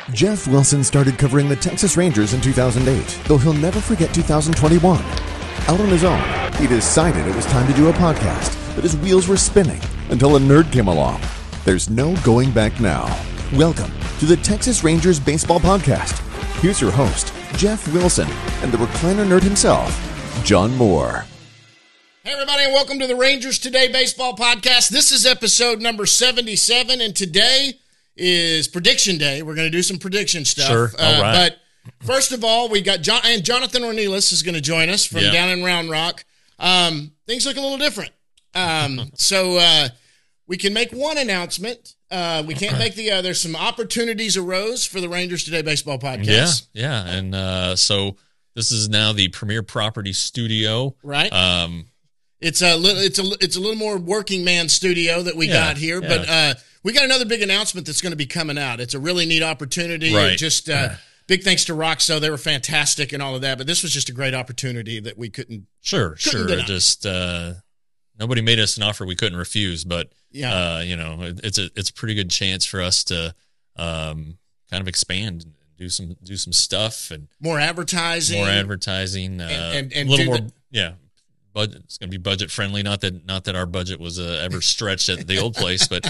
Jeff Wilson started covering the Texas Rangers in 2008, though he'll never forget 2021. Out on his own, he decided it was time to do a podcast, but his wheels were spinning until a nerd came along. There's no going back now. Welcome to the Texas Rangers Baseball Podcast. Here's your host, Jeff Wilson, and the recliner nerd himself, John Moore. Hey everybody, and welcome to the Rangers Today Baseball Podcast. This is episode number 77, and today is prediction day. We're going to do some prediction stuff. Sure, all right. But first of all, we got Jonathan Ornelas is going to join us from down in Round Rock. Things look a little different. So we can make one announcement. We can't make the other. Some opportunities arose for the Rangers Today Baseball Podcast. Yeah. And so this is now the Premier Property Studio. Right. It's a little more working man studio that we got here, but we got another big announcement that's going to be coming out. It's a really neat opportunity. Right. Just big thanks to Roxo. They were fantastic and all of that, but this was just a great opportunity that we couldn't. Sure. It just nobody made us an offer we couldn't refuse, but it's a pretty good chance for us to kind of expand and do some stuff and more advertising, and a little more. Budget. It's going to be budget friendly. Not that our budget was ever stretched at the old place, but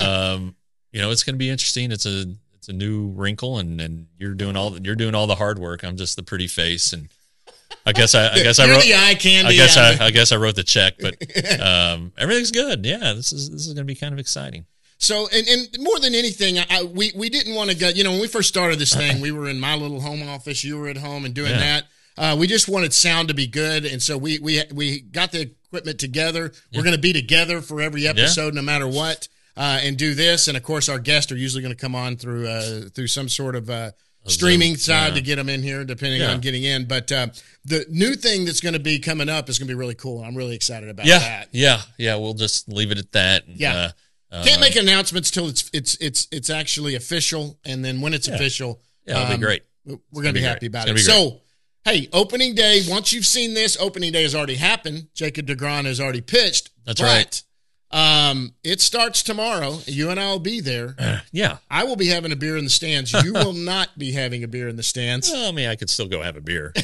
it's going to be interesting. It's a new wrinkle, and you're doing all the hard work. I'm just the pretty face, and I guess I wrote the eye candy. I guess I wrote the check, but everything's good. Yeah, this is going to be kind of exciting. So, and more than anything, we didn't want to go. When we first started this thing, we were in my little home office. You were at home and doing that. We just wanted sound to be good, and so we got the equipment together. We're going to be together for every episode, no matter what, and do this. And of course, our guests are usually going to come on through some sort of streaming side to get them in here, depending on getting in. But the new thing that's going to be coming up is going to be really cool. I'm really excited about that. Yeah. We'll just leave it at that. Can't make announcements till it's actually official, and then when it's official, it'll be great. We're going to be happy about it. So. Hey, opening day, once you've seen this, opening day has already happened. Jacob deGrom has already pitched. That's right. It starts tomorrow. You and I will be there. I will be having a beer in the stands. You will not be having a beer in the stands. Well, I mean, I could still go have a beer.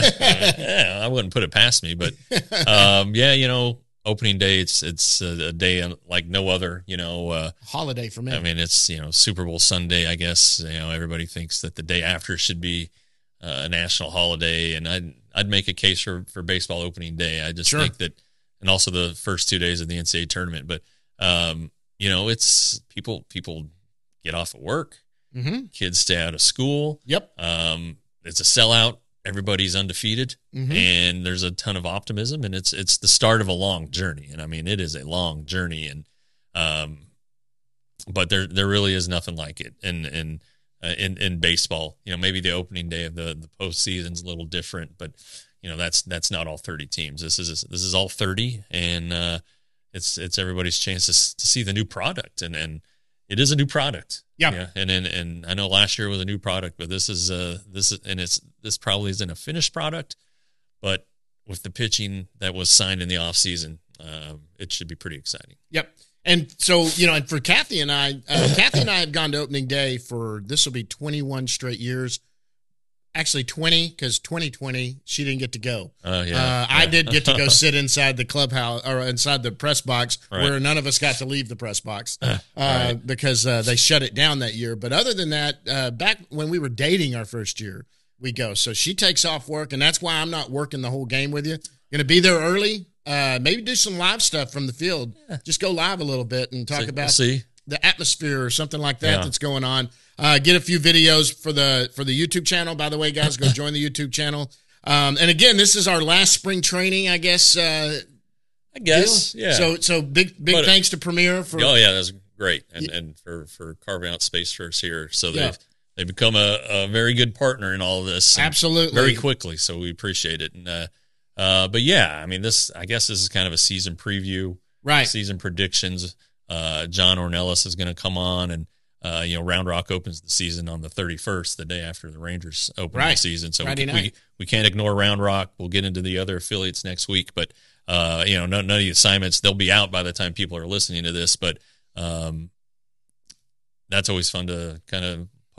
I wouldn't put it past me. But, opening day, it's a day like no other, holiday for me. I mean, it's, Super Bowl Sunday, I guess. Everybody thinks that the day after should be a national holiday, and I'd make a case for baseball opening day. I just think that, and also the first 2 days of the NCAA tournament. But it's people get off of work, kids stay out of school. Yep. It's a sellout. Everybody's undefeated, and there's a ton of optimism, and it's the start of a long journey. And I mean, it is a long journey, and but there really is nothing like it. And in baseball, maybe the opening day of the postseason's a little different, but that's not all 30 teams. This is all 30, and it's everybody's chance to see the new product, and it is a new product. Yeah. And I know last year was a new product, but this probably isn't a finished product, but with the pitching that was signed in the off season, it should be pretty exciting. Yep. And so, and for Kathy and I have gone to opening day this will be 21 straight years. Actually 20, because 2020, she didn't get to go. I did get to go sit inside the clubhouse or inside the press box where none of us got to leave the press box because they shut it down that year. But other than that, back when we were dating our first year, we go. So she takes off work, and that's why I'm not working the whole game with you. Going to be there early. Maybe do some live stuff from the field. Just go live a little bit and talk about the atmosphere or something like that that's going on. Get a few videos for the YouTube channel. By the way, guys, go join the YouTube channel. And again, this is our last spring training, I guess. Deal. So big thanks to Premier for. Oh yeah, that's great, and for carving out space for us here. So they've become a very good partner in all of this. Absolutely, very quickly. So we appreciate it. And but yeah, I mean, this is kind of a season preview, right? Season predictions. John Ornelas is going to come on, and Round Rock opens the season on the 31st, the day after the Rangers open the season. So we can't ignore Round Rock. We'll get into the other affiliates next week, but none of the assignments, they'll be out by the time people are listening to this. But that's always fun to kind of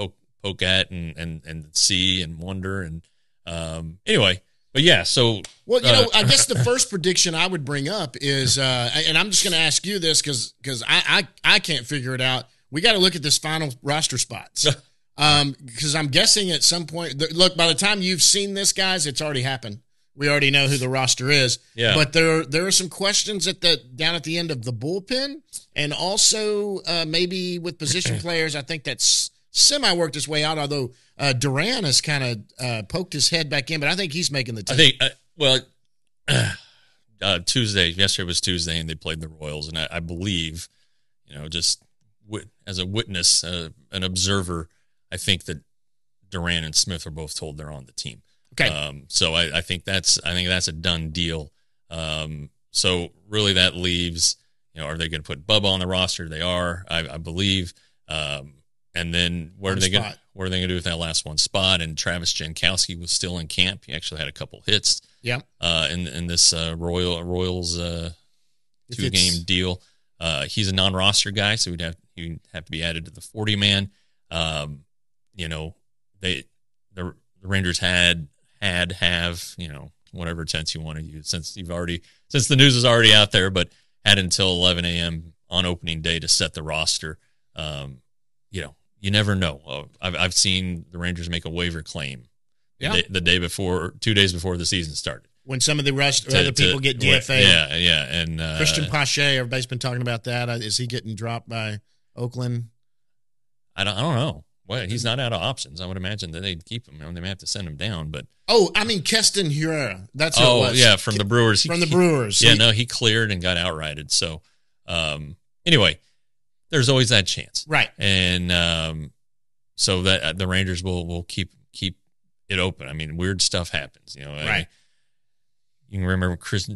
poke at and see and wonder. And anyway, but yeah, so. Well, I guess the first prediction I would bring up is, and I'm just going to ask you this because I can't figure it out. We got to look at this final roster spots. Because I'm guessing at some point, look, by the time you've seen this, guys, it's already happened. We already know who the roster is. Yeah. But there are some questions down at the end of the bullpen, and also maybe with position players. I think that's semi worked his way out. Although Duran has kind of poked his head back in, but I think he's making the team. I think Tuesday. Yesterday was Tuesday, and they played the Royals, and I believe, just as a witness, an observer. I think that Duran and Smith are both told they're on the team. Okay. So I think that's a done deal. So really that leaves, are they going to put Bubba on the roster? They are, I believe. And then what are they going to do with that last one spot? And Travis Jankowski was still in camp. He actually had a couple hits. Yeah. In this Royals 2-game deal. He's a non-roster guy, so he'd have to be added to the 40-man. The Rangers have, whatever tense you want to use, since the news is already out there, but had until 11 a.m. on opening day to set the roster. You never know. I've seen the Rangers make a waiver claim the day before, 2 days before the season started. When some of the other people get DFA. Yeah. And Christian Pache, everybody's been talking about that. Is he getting dropped by Oakland? I don't know. Well, he's not out of options. I would imagine that they'd keep him. They may have to send him down, but Keston Hiura. That's who it was. Yeah, from the Brewers. He cleared and got outrighted. So, anyway, there's always that chance, right? And so that the Rangers will keep it open. I mean, weird stuff happens. Right? You can remember Chris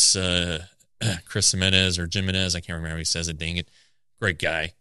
Jimenez or Jimenez. I can't remember how he says it. Dang it, great guy.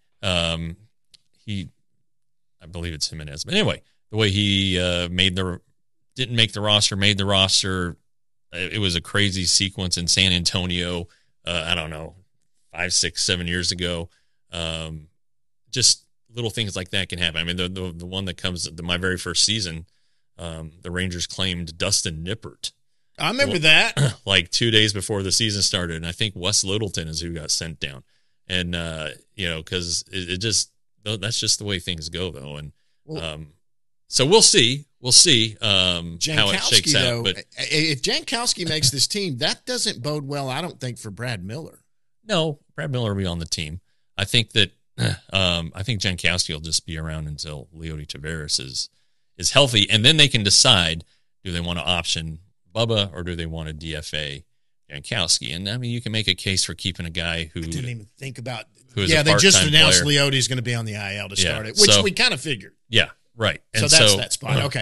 I believe it's Jimenez. But anyway, the way he didn't make the roster, made the roster, it was a crazy sequence in San Antonio, I don't know, 5, 6, 7 years ago. Just little things like that can happen. I mean, the one that comes my very first season, the Rangers claimed Dustin Nippert. I remember that. Like 2 days before the season started, and I think Wes Littleton is who got sent down. And, because it just, that's just the way things go, though. And so we'll see. We'll see how it shakes out. But if Jankowski makes this team, that doesn't bode well, I don't think, for Brad Miller. No, Brad Miller will be on the team. I think that Jankowski will just be around until Leody Taveras is healthy, and then they can decide, do they want to option Bubba or do they want to DFA Jankowski? And I mean, you can make a case for keeping a guy who I didn't even think about. They just announced Leody's going to be on the IL to start it, which we kind of figured. Yeah, right. And so that's that spot. Okay.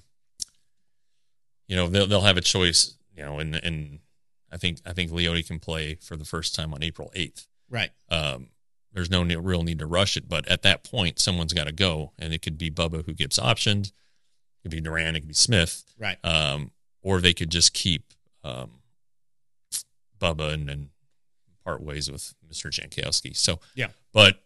They'll have a choice. And I think Leody can play for the first time on April 8th. Right. There's no real need to rush it, but at that point, someone's got to go, and it could be Bubba who gets optioned. It could be Duran. It could be Smith. Right. Or they could just keep Bubba and part ways with Mr. Jankowski. So, yeah. But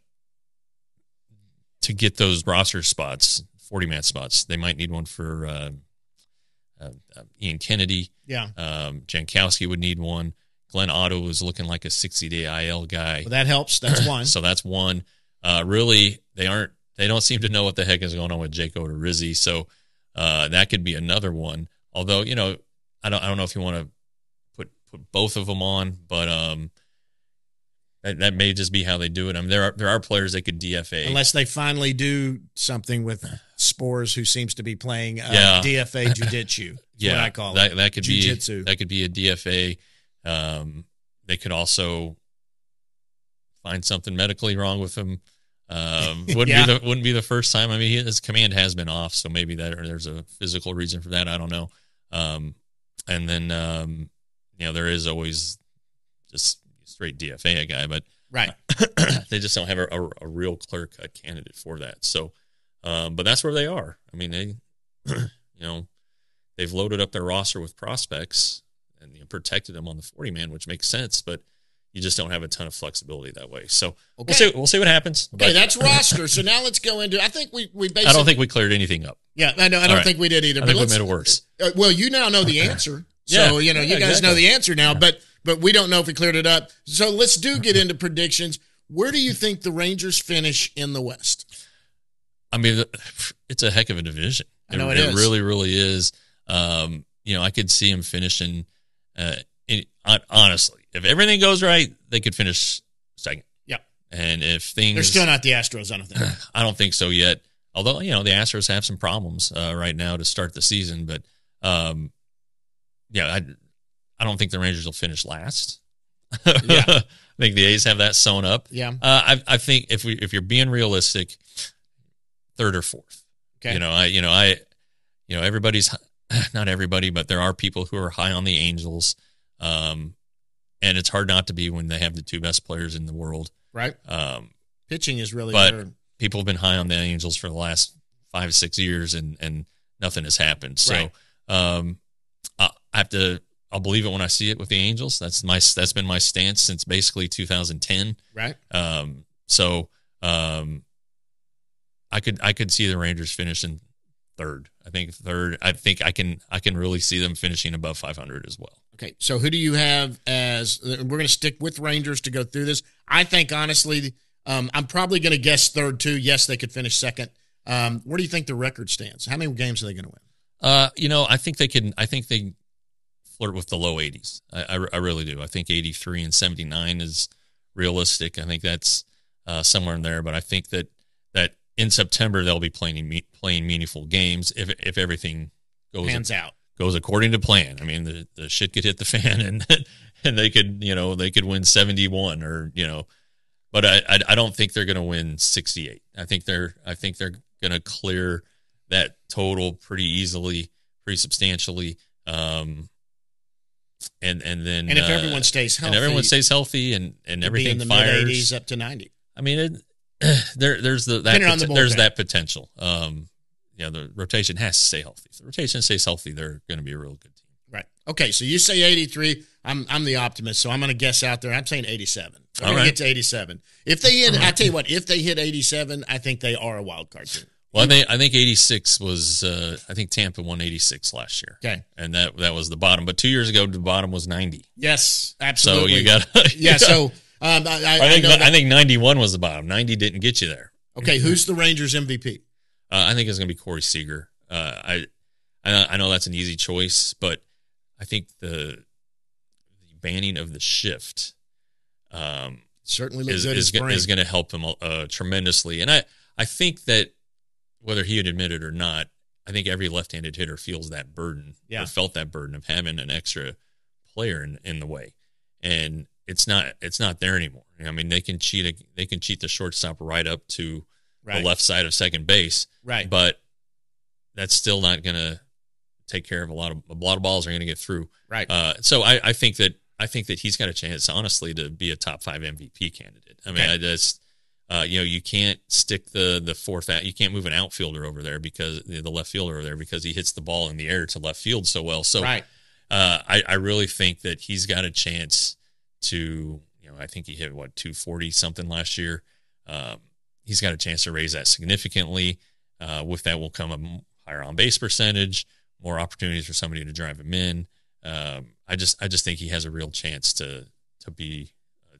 to get those roster spots, 40-man spots, they might need one for Ian Kennedy. Yeah. Jankowski would need one. Glenn Otto is looking like a 60-day IL guy. Well, that helps. That's one. So that's one. Really, they don't seem to know what the heck is going on with Jake Odorizzi. So that could be another one. Although, I don't know if you want to put both of them on, but that may just be how they do it. I mean, there are players that could DFA unless they finally do something with Spores, who seems to be playing DFA jiu-jitsu. Yeah, what I call it. That could jiu-jitsu. That could be a DFA. They could also find something medically wrong with him. Wouldn't be the first time. I mean, his command has been off, so maybe there's a physical reason for that. I don't know. And then there is always just straight DFA a guy, but right. They just don't have a real clear-cut candidate for that. So, but that's where they are. I mean, they, they've loaded up their roster with prospects and protected them on the 40-man, which makes sense. But you just don't have a ton of flexibility that way. So we'll see what happens. Okay, that's roster. So now let's go into. I think we basically. I don't think we cleared anything up. Yeah, I don't think we did either. I think we made it worse. Well, you now know the answer, so you guys know the answer now. But we don't know if we cleared it up. So let's get into predictions. Where do you think the Rangers finish in the West? I mean, it's a heck of a division. I know it is. It really, really is. I could see them finishing. Honestly, if everything goes right, they could finish second. Yeah. And if things, they're still not the Astros, I don't think. I don't think so yet. Although the Astros have some problems right now to start the season, but I don't think the Rangers will finish last. Yeah. I think the A's have that sewn up. Yeah. I think if you're being realistic, third or fourth. Okay. Everybody's not everybody, but there are people who are high on the Angels. And it's hard not to be when they have the two best players in the world. Right. Pitching is really but people have been high on the Angels for the last 5-6 years and nothing has happened. So I'll believe it when I see it with the Angels. That's been my stance since basically 2010. Right. I could see the Rangers finishing third. I think third. I think I can really see them finishing above 500 as well. Okay, so who do you have as? We're going to stick with Rangers to go through this. I think honestly, I'm probably going to guess third too. Yes, they could finish second. Where do you think the record stands? How many games are they going to win? I think they can. I think they flirt with the low 80s. I really do. I think 83 and 79 is realistic. I think that's somewhere in there. But I think that in September they'll be playing meaningful games if everything goes according to plan. I mean, the shit could hit the fan and they could win 71 but I don't think they're going to win 68. I think they're going to clear that total pretty easily, pretty substantially. And then if everyone stays healthy and everything in the fires, mid-80s up to 90. I mean, there's that potential. The rotation has to stay healthy. If the rotation stays healthy, they're going to be a real good team. Right. Okay, so you say 83. I'm the optimist, so I'm going to guess out there. I'm saying 87. I'm going to get to 87. If they hit, I tell you what, if they hit 87, I think they are a wild card team. Well, I think 86 was. I think Tampa won 86 last year. Okay, and that was the bottom. But 2 years ago, the bottom was 90. Yes, absolutely. So you got. Yeah. So I think 91 was the bottom. 90 didn't get you there. Okay, who's the Rangers MVP? I think it's going to be Corey Seager. I know that's an easy choice, but I think the banning of the shift certainly looks good is going to help him tremendously. And I think that whether he would admit it or not, I think every left-handed hitter feels that burden or felt that burden of having an extra player in the way, and it's not there anymore. I mean, they can cheat the shortstop right up to the left side of second base, right? But that's still not going to take care of a lot of balls are going to get through, right? So I think that he's got a chance, honestly, to be a top 5 MVP candidate. I mean, you can't stick the fourth out. You can't move an outfielder over there because the left fielder over there because he hits the ball in the air to left field so well. So I really think that he's got a chance to. I think he hit 240 something last year. He's got a chance to raise that significantly. With that will come a higher on base percentage, more opportunities for somebody to drive him in. I just think he has a real chance to be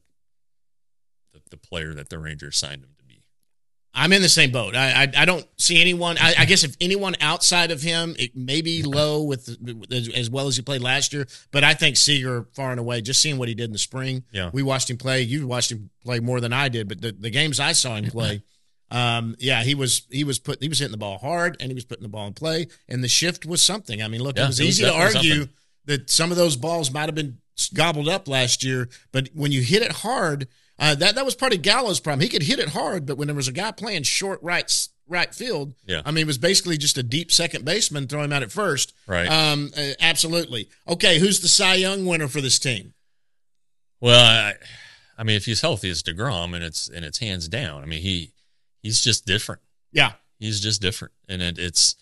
the player that the Rangers signed him to be. I'm in the same boat. I don't see anyone. I guess if anyone outside of him, it may be low with as well as he played last year. But I think Seager far and away. Just seeing what he did in the spring, we watched him play. You watched him play more than I did, but the games I saw him play, he was hitting the ball hard and he was putting the ball in play. And the shift was something. I mean, look, it was easy to argue that some of those balls might have been gobbled up last year, but when you hit it hard. That was part of Gallo's problem. He could hit it hard, but when there was a guy playing short right field, I mean, it was basically just a deep second baseman throwing him out at first. Right. Absolutely. Okay, who's the Cy Young winner for this team? Well, I mean, if he's healthy, it's DeGrom, and it's hands down. I mean, he's just different. Yeah. He's just different, and it is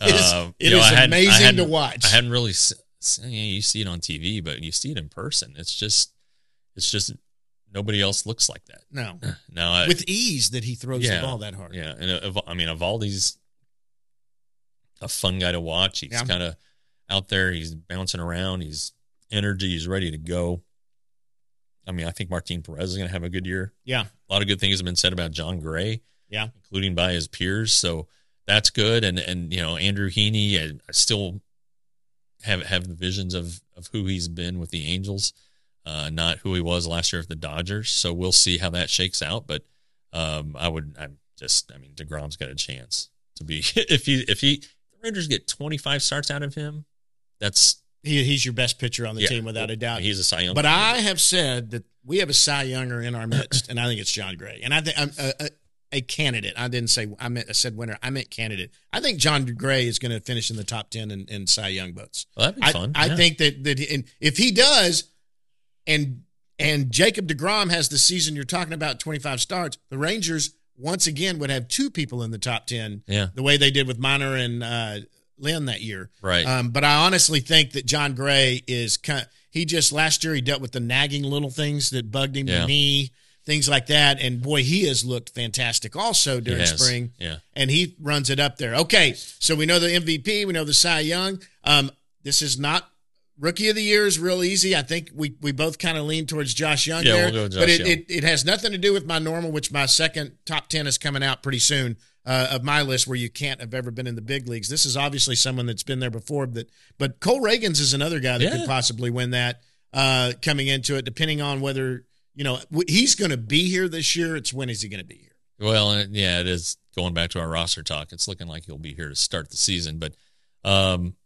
amazing to watch. I hadn't really you see it on TV, but you see it in person. It's just nobody else looks like that. No. Now, with ease that he throws the ball that hard. Yeah, and I mean, Evaldi's a fun guy to watch. He's kind of out there. He's bouncing around. He's energy. He's ready to go. I mean, I think Martin Perez is going to have a good year. Yeah. A lot of good things have been said about John Gray. Yeah. Including by his peers. So that's good. And Andrew Heaney, I still have the visions of who he's been with the Angels, not who he was last year with the Dodgers. So we'll see how that shakes out. But DeGrom's got a chance to be, if the Rangers get 25 starts out of him, he's your best pitcher on the team without a doubt. He's a Cy Young. But I have said that we have a Cy Younger in our midst, and I think it's John Gray. And I think I'm a candidate. I said winner. I meant candidate. I think John Gray is going to finish in the top 10 in Cy Young votes. Well, that'd be fun. I think that and if he does, and Jacob deGrom has the season you're talking about, 25 starts, the Rangers once again would have two people in the top 10. Yeah. The way they did with Minor and Lynn that year. Right. But I honestly think that John Gray is last year he dealt with the nagging little things that bugged him, the knee, things like that. And boy, he has looked fantastic also during spring. Yeah. And he runs it up there. Okay. So we know the MVP, we know the Cy Young. This is not Rookie of the Year is real easy. I think we both kind of lean towards Josh Young there. We'll go with Josh Young. It has nothing to do with my normal, which my second top 10 is coming out pretty soon. Of my list where you can't have ever been in the big leagues. This is obviously someone that's been there before, but Cole Reagans is another guy that could possibly win that coming into it, depending on whether, he's going to be here this year. It's when is he going to be here? Well, it is going back to our roster talk. It's looking like he'll be here to start the season, but and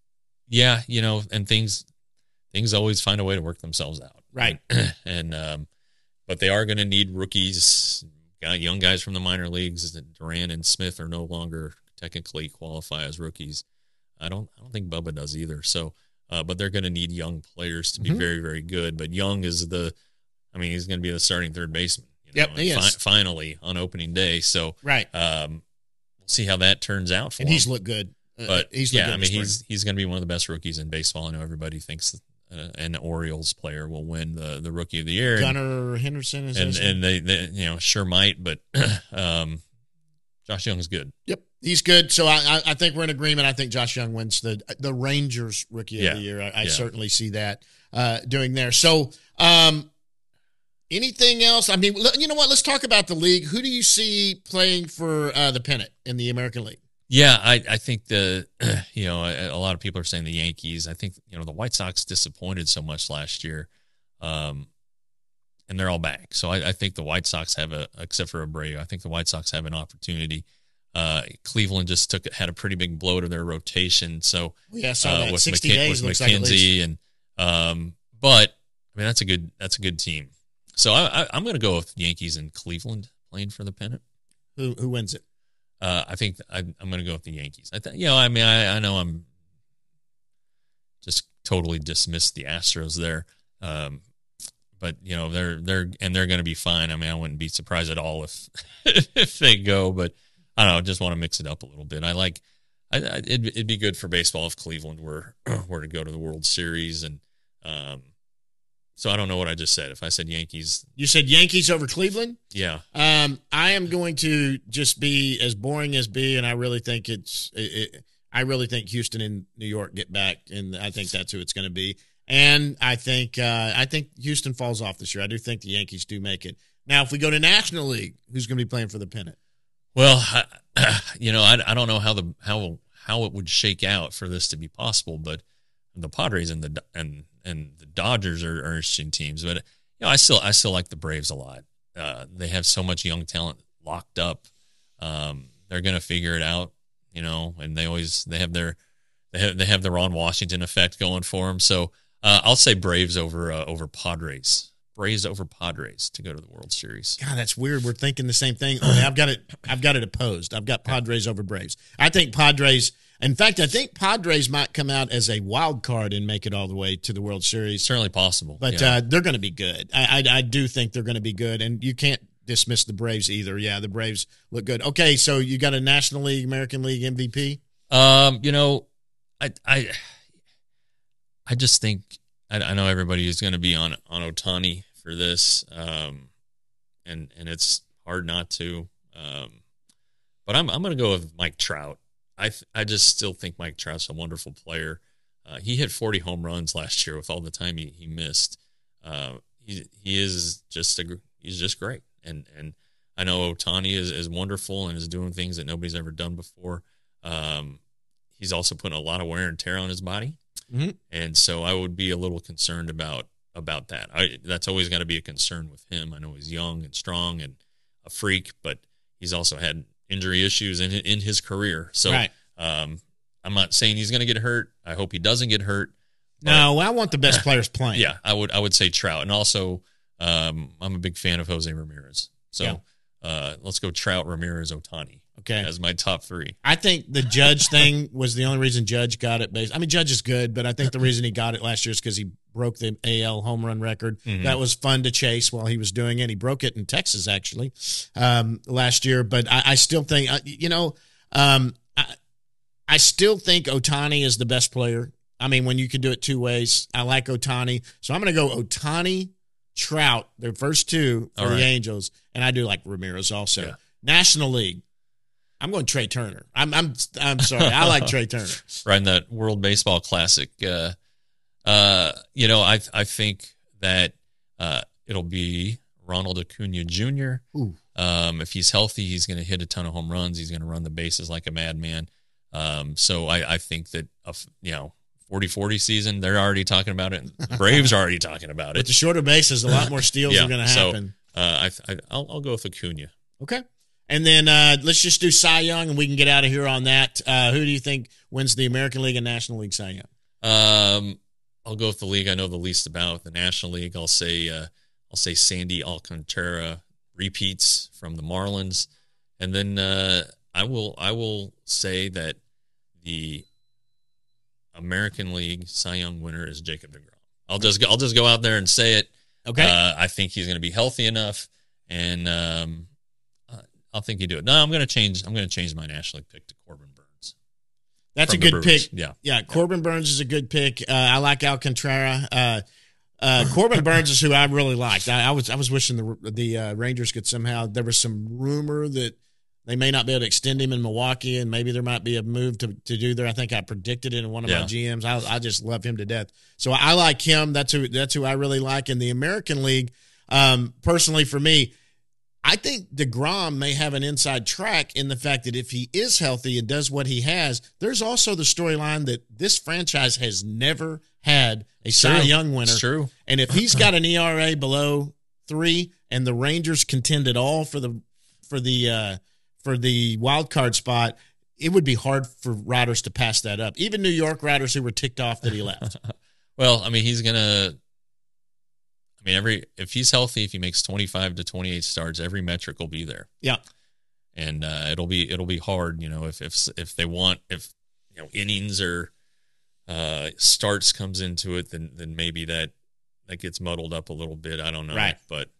things always find a way to work themselves out. Right. And, but they are going to need rookies. Young guys from the minor leagues. Duran and Smith are no longer technically qualify as rookies. I don't think Bubba does either. So, but they're going to need young players to be very, very good. But Young is he's going to be the starting third baseman. He is. Finally on opening day. So, right. We'll see how that turns out for him. And he's looked good. But he's going to be one of the best rookies in baseball. I know everybody thinks an Orioles player will win the Rookie of the Year. Gunnar Henderson is and they sure might, but Josh Young's good. Yep, he's good. So I think we're in agreement. I think Josh Young wins the Rangers Rookie of the Year. I certainly see that doing there. So anything else? I mean, you know what? Let's talk about the league. Who do you see playing for the pennant in the American League? Yeah, I think a lot of people are saying the Yankees. I think, the White Sox disappointed so much last year, and they're all back. So I think the White Sox except for Abreu, I think the White Sox have an opportunity. Cleveland just had a pretty big blow to their rotation. So so with 60 days with looks McKenzie like but I mean that's a good team. So I'm going to go with Yankees and Cleveland playing for the pennant. Who wins it? I think I'm going to go with the Yankees. I know I'm just totally dismissed the Astros there, but they're going to be fine. I mean, I wouldn't be surprised at all if they go, but I don't know. I just want to mix it up a little bit. It'd be good for baseball if Cleveland were to go to the World Series, and so I don't know what I just said. If I said Yankees. You said Yankees over Cleveland? Yeah. I am going to just be as boring as be, and I really think I really think Houston and New York get back, and I think that's who it's going to be. And I think Houston falls off this year. I do think the Yankees do make it. Now, if we go to National League, who's going to be playing for the pennant? Well, I don't know how it would shake out for this to be possible, but the Padres and the Dodgers are interesting teams, but I still like the Braves a lot. They have so much young talent locked up. They're going to figure it out, and they have the Ron Washington effect going for them. So I'll say Braves over Padres. Braves over Padres to go to the World Series. God, that's weird. We're thinking the same thing. Only I've got it opposed. I've got Padres over Braves. I think Padres. In fact, I think Padres might come out as a wild card and make it all the way to the World Series. Certainly possible. But they're going to be good. I do think they're going to be good, and you can't dismiss the Braves either. Yeah, the Braves look good. Okay, so you got a National League, American League MVP? I just think I know everybody is going to be on Ohtani for this, and it's hard not to. But I'm going to go with Mike Trout. I just still think Mike Trout's a wonderful player. He hit 40 home runs last year with all the time he missed. He's just great. And I know Ohtani is wonderful and is doing things that nobody's ever done before. He's also putting a lot of wear and tear on his body. Mm-hmm. And so I would be a little concerned about that. That's always got to be a concern with him. I know he's young and strong and a freak, but he's also had injury issues in his career. So right. I'm not saying he's going to get hurt. I hope he doesn't get hurt. No, I want the best players playing. Yeah, I would say Trout. And also, I'm a big fan of Jose Ramirez. So let's go Trout, Ramirez, Ohtani. Okay. As my top three. I think the Judge thing was the only reason Judge got it. Judge is good, but I think the reason he got it last year is because he broke the AL home run record. Mm-hmm. That was fun to chase while he was doing it. He broke it in Texas, actually, last year. But I still think, I still think Ohtani is the best player. I mean, when you can do it two ways, I like Ohtani. So I'm going to go Ohtani, Trout, their first two for the Angels, and I do like Ramirez also. Yeah. National League. I'm going Trey Turner. I'm sorry. I like Trey Turner. Right in that World Baseball Classic. I think that it'll be Ronald Acuna Jr. If he's healthy, he's going to hit a ton of home runs. He's going to run the bases like a madman. So I think that 40-40 season, they're already talking about it. The Braves are already talking about it. With the shorter bases, a lot more steals are going to happen. So I'll go with Acuna. Okay. And then let's just do Cy Young, and we can get out of here on that. Who do you think wins the American League and National League Cy Young? I'll go with the league I know the least about. The National League, I'll say Sandy Alcantara repeats from the Marlins, and then I will say that the American League Cy Young winner is Jacob deGrom. I'll just go out there and say it. Okay. I think he's going to be healthy enough, and I'll think he do it. No, I'm going to change my National League pick to Corbin Burns. That's a good pick. Yeah. Corbin Burns is a good pick. I like Alcantara. Corbin Burns is who I really liked. I was wishing the Rangers could somehow. There was some rumor that they may not be able to extend him in Milwaukee, and maybe there might be a move to do there. I think I predicted it in one of my GMs. I just love him to death. So I like him. That's who I really like. In the American League, personally for me, I think DeGrom may have an inside track in the fact that if he is healthy and does what he has, there's also the storyline that this franchise has never had a Cy Young winner. It's true. And if he's got an ERA below 3 and the Rangers contend at all for the wild card spot, it would be hard for writers to pass that up. Even New York writers who were ticked off that he left. Well, I mean, if he's healthy, if he makes 25 to 28 starts, every metric will be there. Yeah. And it'll be hard, if they want, innings or starts comes into it, then maybe that gets muddled up a little bit. I don't know. Right. But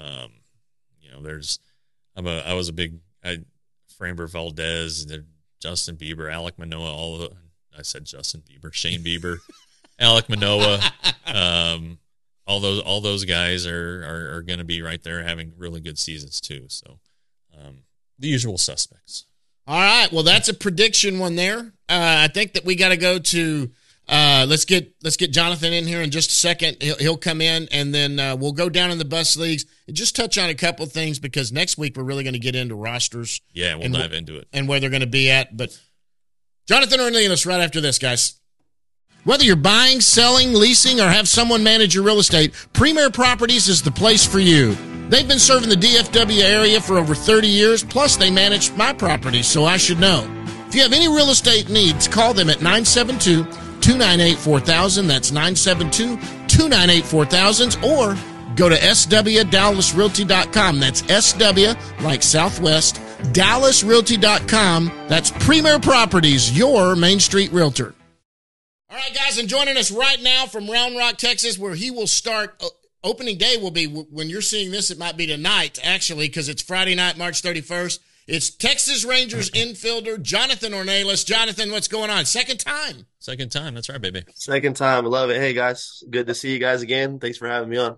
I was a big Framber Valdez, Justin Bieber, Alek Manoah, Shane Bieber, Alek Manoah, all those guys are going to be right there having really good seasons too. So the usual suspects. All right. Well, that's a prediction one there. I think that we got to go to let's get Jonathan in here in just a second. He'll come in, and then we'll go down in the bus leagues and just touch on a couple things because next week we're really going to get into rosters. Yeah, we'll dive into it and where they're going to be at. But Jonathan Ornelas right after this, guys. Whether you're buying, selling, leasing, or have someone manage your real estate, Premier Properties is the place for you. They've been serving the DFW area for over 30 years, plus they manage my properties, so I should know. If you have any real estate needs, call them at 972-298-4000. That's 972-298-4000. Or go to swdallasrealty.com. That's SW, like Southwest, DallasRealty.com. That's Premier Properties, your Main Street realtor. All right, guys, and joining us right now from Round Rock, Texas, where he will start. Opening day will be, when you're seeing this, it might be tonight, actually, because it's Friday night, March 31st. It's Texas Rangers infielder Jonathan Ornelas. Jonathan, what's going on? Second time. Second time. That's right, baby. Second time. I love it. Hey, guys. Good to see you guys again. Thanks for having me on.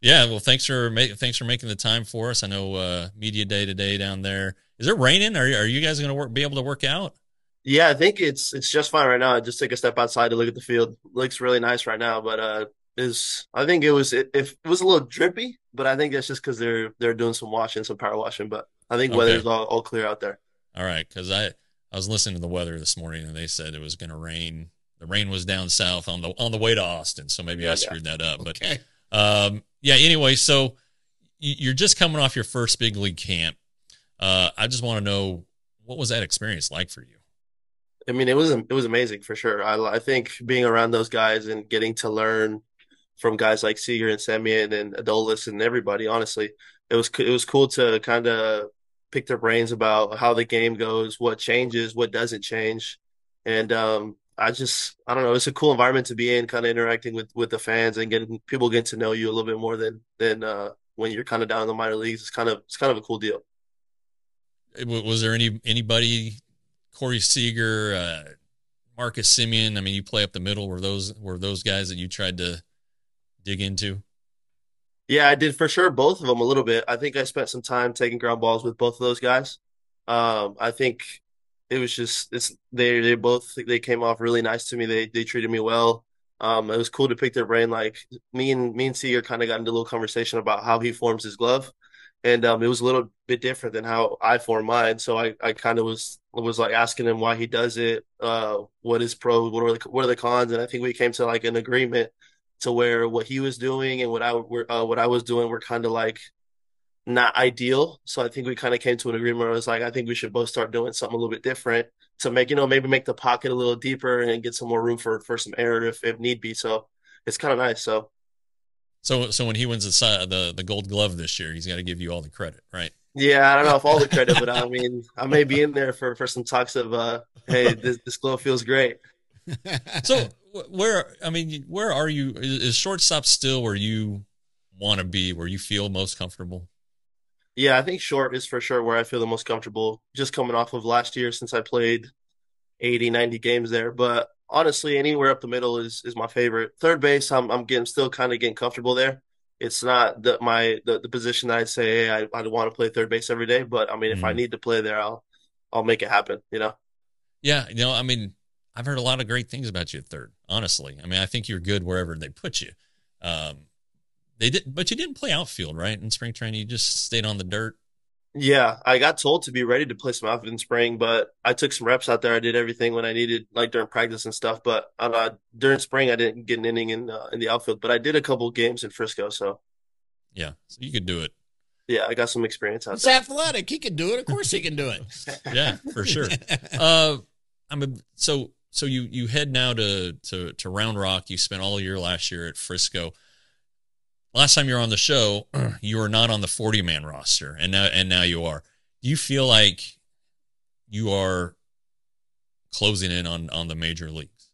Yeah, well, thanks for making the time for us. I know media day today down there. Is it raining? Are you guys going to be able to work out? Yeah, I think it's just fine right now. I just take a step outside to look at the field. Looks really nice right now, but is I think if it was a little drippy, but I think that's just because they're doing some washing, some power washing. But I think Okay. weather's all clear out there. All right, because I was listening to the weather this morning and they said it was going to rain. The rain was down south on the way to Austin, so maybe I screwed that up. Okay. But yeah. Anyway, so you're just coming off your first big league camp. I just want to know, what was that experience like for you? I mean, it was amazing for sure. I think being around those guys and getting to learn from guys like Seager and Semien and Adolis and everybody, honestly, it was cool to kind of pick their brains about how the game goes, what changes, what doesn't change, and I don't know, it's a cool environment to be in, kind of interacting with the fans and getting to know you a little bit more than when you're kind of down in the minor leagues. It's kind of a cool deal. Was there anybody, Corey Seager, Marcus Semien? I mean, you play up the middle. Were those guys that you tried to dig into? Yeah, I did for sure both of them a little bit. I think I spent some time taking ground balls with both of those guys. I think it was just they came off really nice to me. They treated me well. It was cool to pick their brain. Like me and Seager kind of got into a little conversation about how he forms his glove, and it was a little bit different than how I form mine. So I kind of was like asking him why he does it, what is pro, what are the cons, and I think we came to like an agreement to where what he was doing and what I was doing were kind of like not ideal. So I think we kind of came to an agreement where it was like, I think we should both start doing something a little bit different to make, maybe make the pocket a little deeper and get some more room for some error if need be. So it's kind of nice. So when he wins the Gold Glove this year, he's got to give you all the credit, right? Yeah, I don't know if all the credit, but I mean, I may be in there for some talks of, hey, this glove feels great. So where are you? Is shortstop still where you want to be, where you feel most comfortable? Yeah, I think short is for sure where I feel the most comfortable, just coming off of last year since I played 80, 90 games there. But honestly, anywhere up the middle is my favorite. Third base, I'm getting still kind of getting comfortable there. It's not the position that I'd say, hey, I want to play third base every day, but I mean, if I Mm. need to play there, I'll make it happen. Yeah, I mean, I've heard a lot of great things about you at third. Honestly, I mean, I think you're good wherever they put you. Um, but you didn't play outfield, right? In spring training, you just stayed on the dirt. Yeah, I got told to be ready to play some outfield in spring, but I took some reps out there. I did everything when I needed, like during practice and stuff. But during spring, I didn't get an inning in the outfield, but I did a couple games in Frisco. So Yeah, so you could do it. yeah, I got some experience out He's there. athletic. He can do it. Of course he can do it. Yeah, for sure. Uh, so you head now to Round Rock. You spent all year last year at Frisco. Last time you were on the show, you were not on the 40-man roster, and now you are. Do you feel like you are closing in on the major leagues?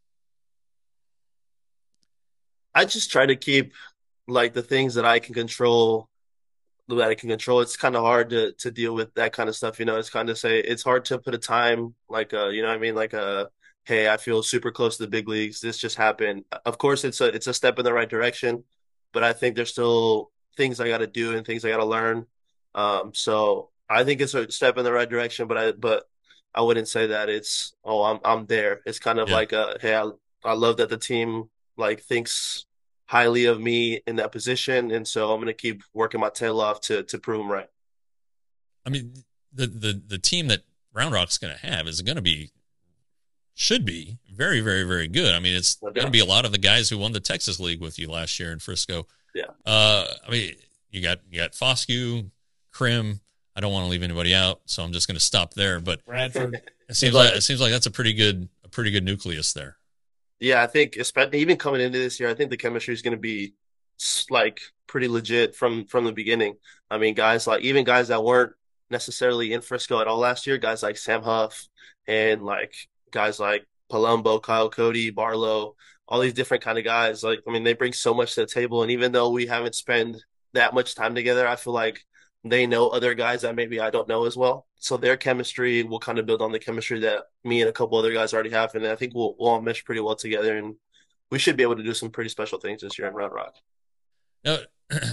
I just try to keep like the things that I can control. It's kind of hard to deal with that kind of stuff. It's kind of it's hard to put a time like what I mean, like hey, I feel super close to the big leagues. This just happened. Of course, it's a step in the right direction, but I think there's still things I got to do and things I got to learn. So I think it's a step in the right direction, but I wouldn't say that it's, oh, I'm there. It's kind of Yeah. like hey, I love that the team like thinks highly of me in that position, and so I'm gonna keep working my tail off to prove them right. I mean, the team that Round Rock's going to have is going to be should be very, very, very good. I mean, it's No going to doubt. be a lot of the guys who won the Texas League with you last year in Frisco. Yeah. I mean, you got Foscue, Krim. I don't want to leave anybody out, so I'm just going to stop there. But Bradford. it seems like that's a pretty good nucleus there. Yeah, I think especially even coming into this year, I think the chemistry is going to be like pretty legit from the beginning. I mean, even guys that weren't necessarily in Frisco at all last year, guys like Sam Huff and like guys like Palumbo, Kyle Cody, Barlow, all these different kind of guys. Like, I mean, they bring so much to the table, and even though we haven't spent that much time together, I feel like they know other guys that maybe I don't know as well. So their chemistry will kind of build on the chemistry that me and a couple other guys already have, and I think we'll all mesh pretty well together, and we should be able to do some pretty special things this year in Round Rock. Now,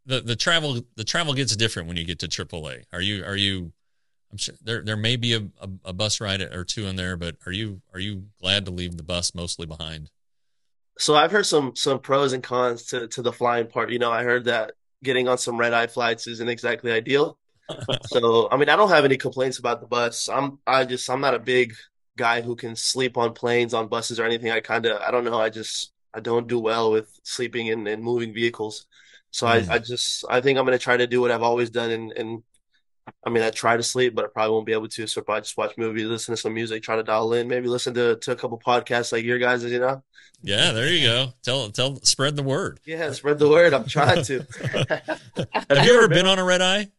the travel gets different when you get to AAA. Are you? I'm sure there may be a bus ride or two in there, but are you glad to leave the bus mostly behind? So I've heard some pros and cons to the flying part. I heard that getting on some red eye flights isn't exactly ideal. So I mean, I don't have any complaints about the bus. I'm not a big guy who can sleep on planes, on buses, or anything. I don't know. I don't do well with sleeping in moving vehicles. So I think I'm gonna try to do what I've always done, and I mean, I try to sleep, but I probably won't be able to. So probably just watch movies, listen to some music, try to dial in, maybe listen to a couple podcasts like your guys, Yeah, there you go. Spread the word. Yeah, spread the word. I'm trying to. Have you ever been on a red eye?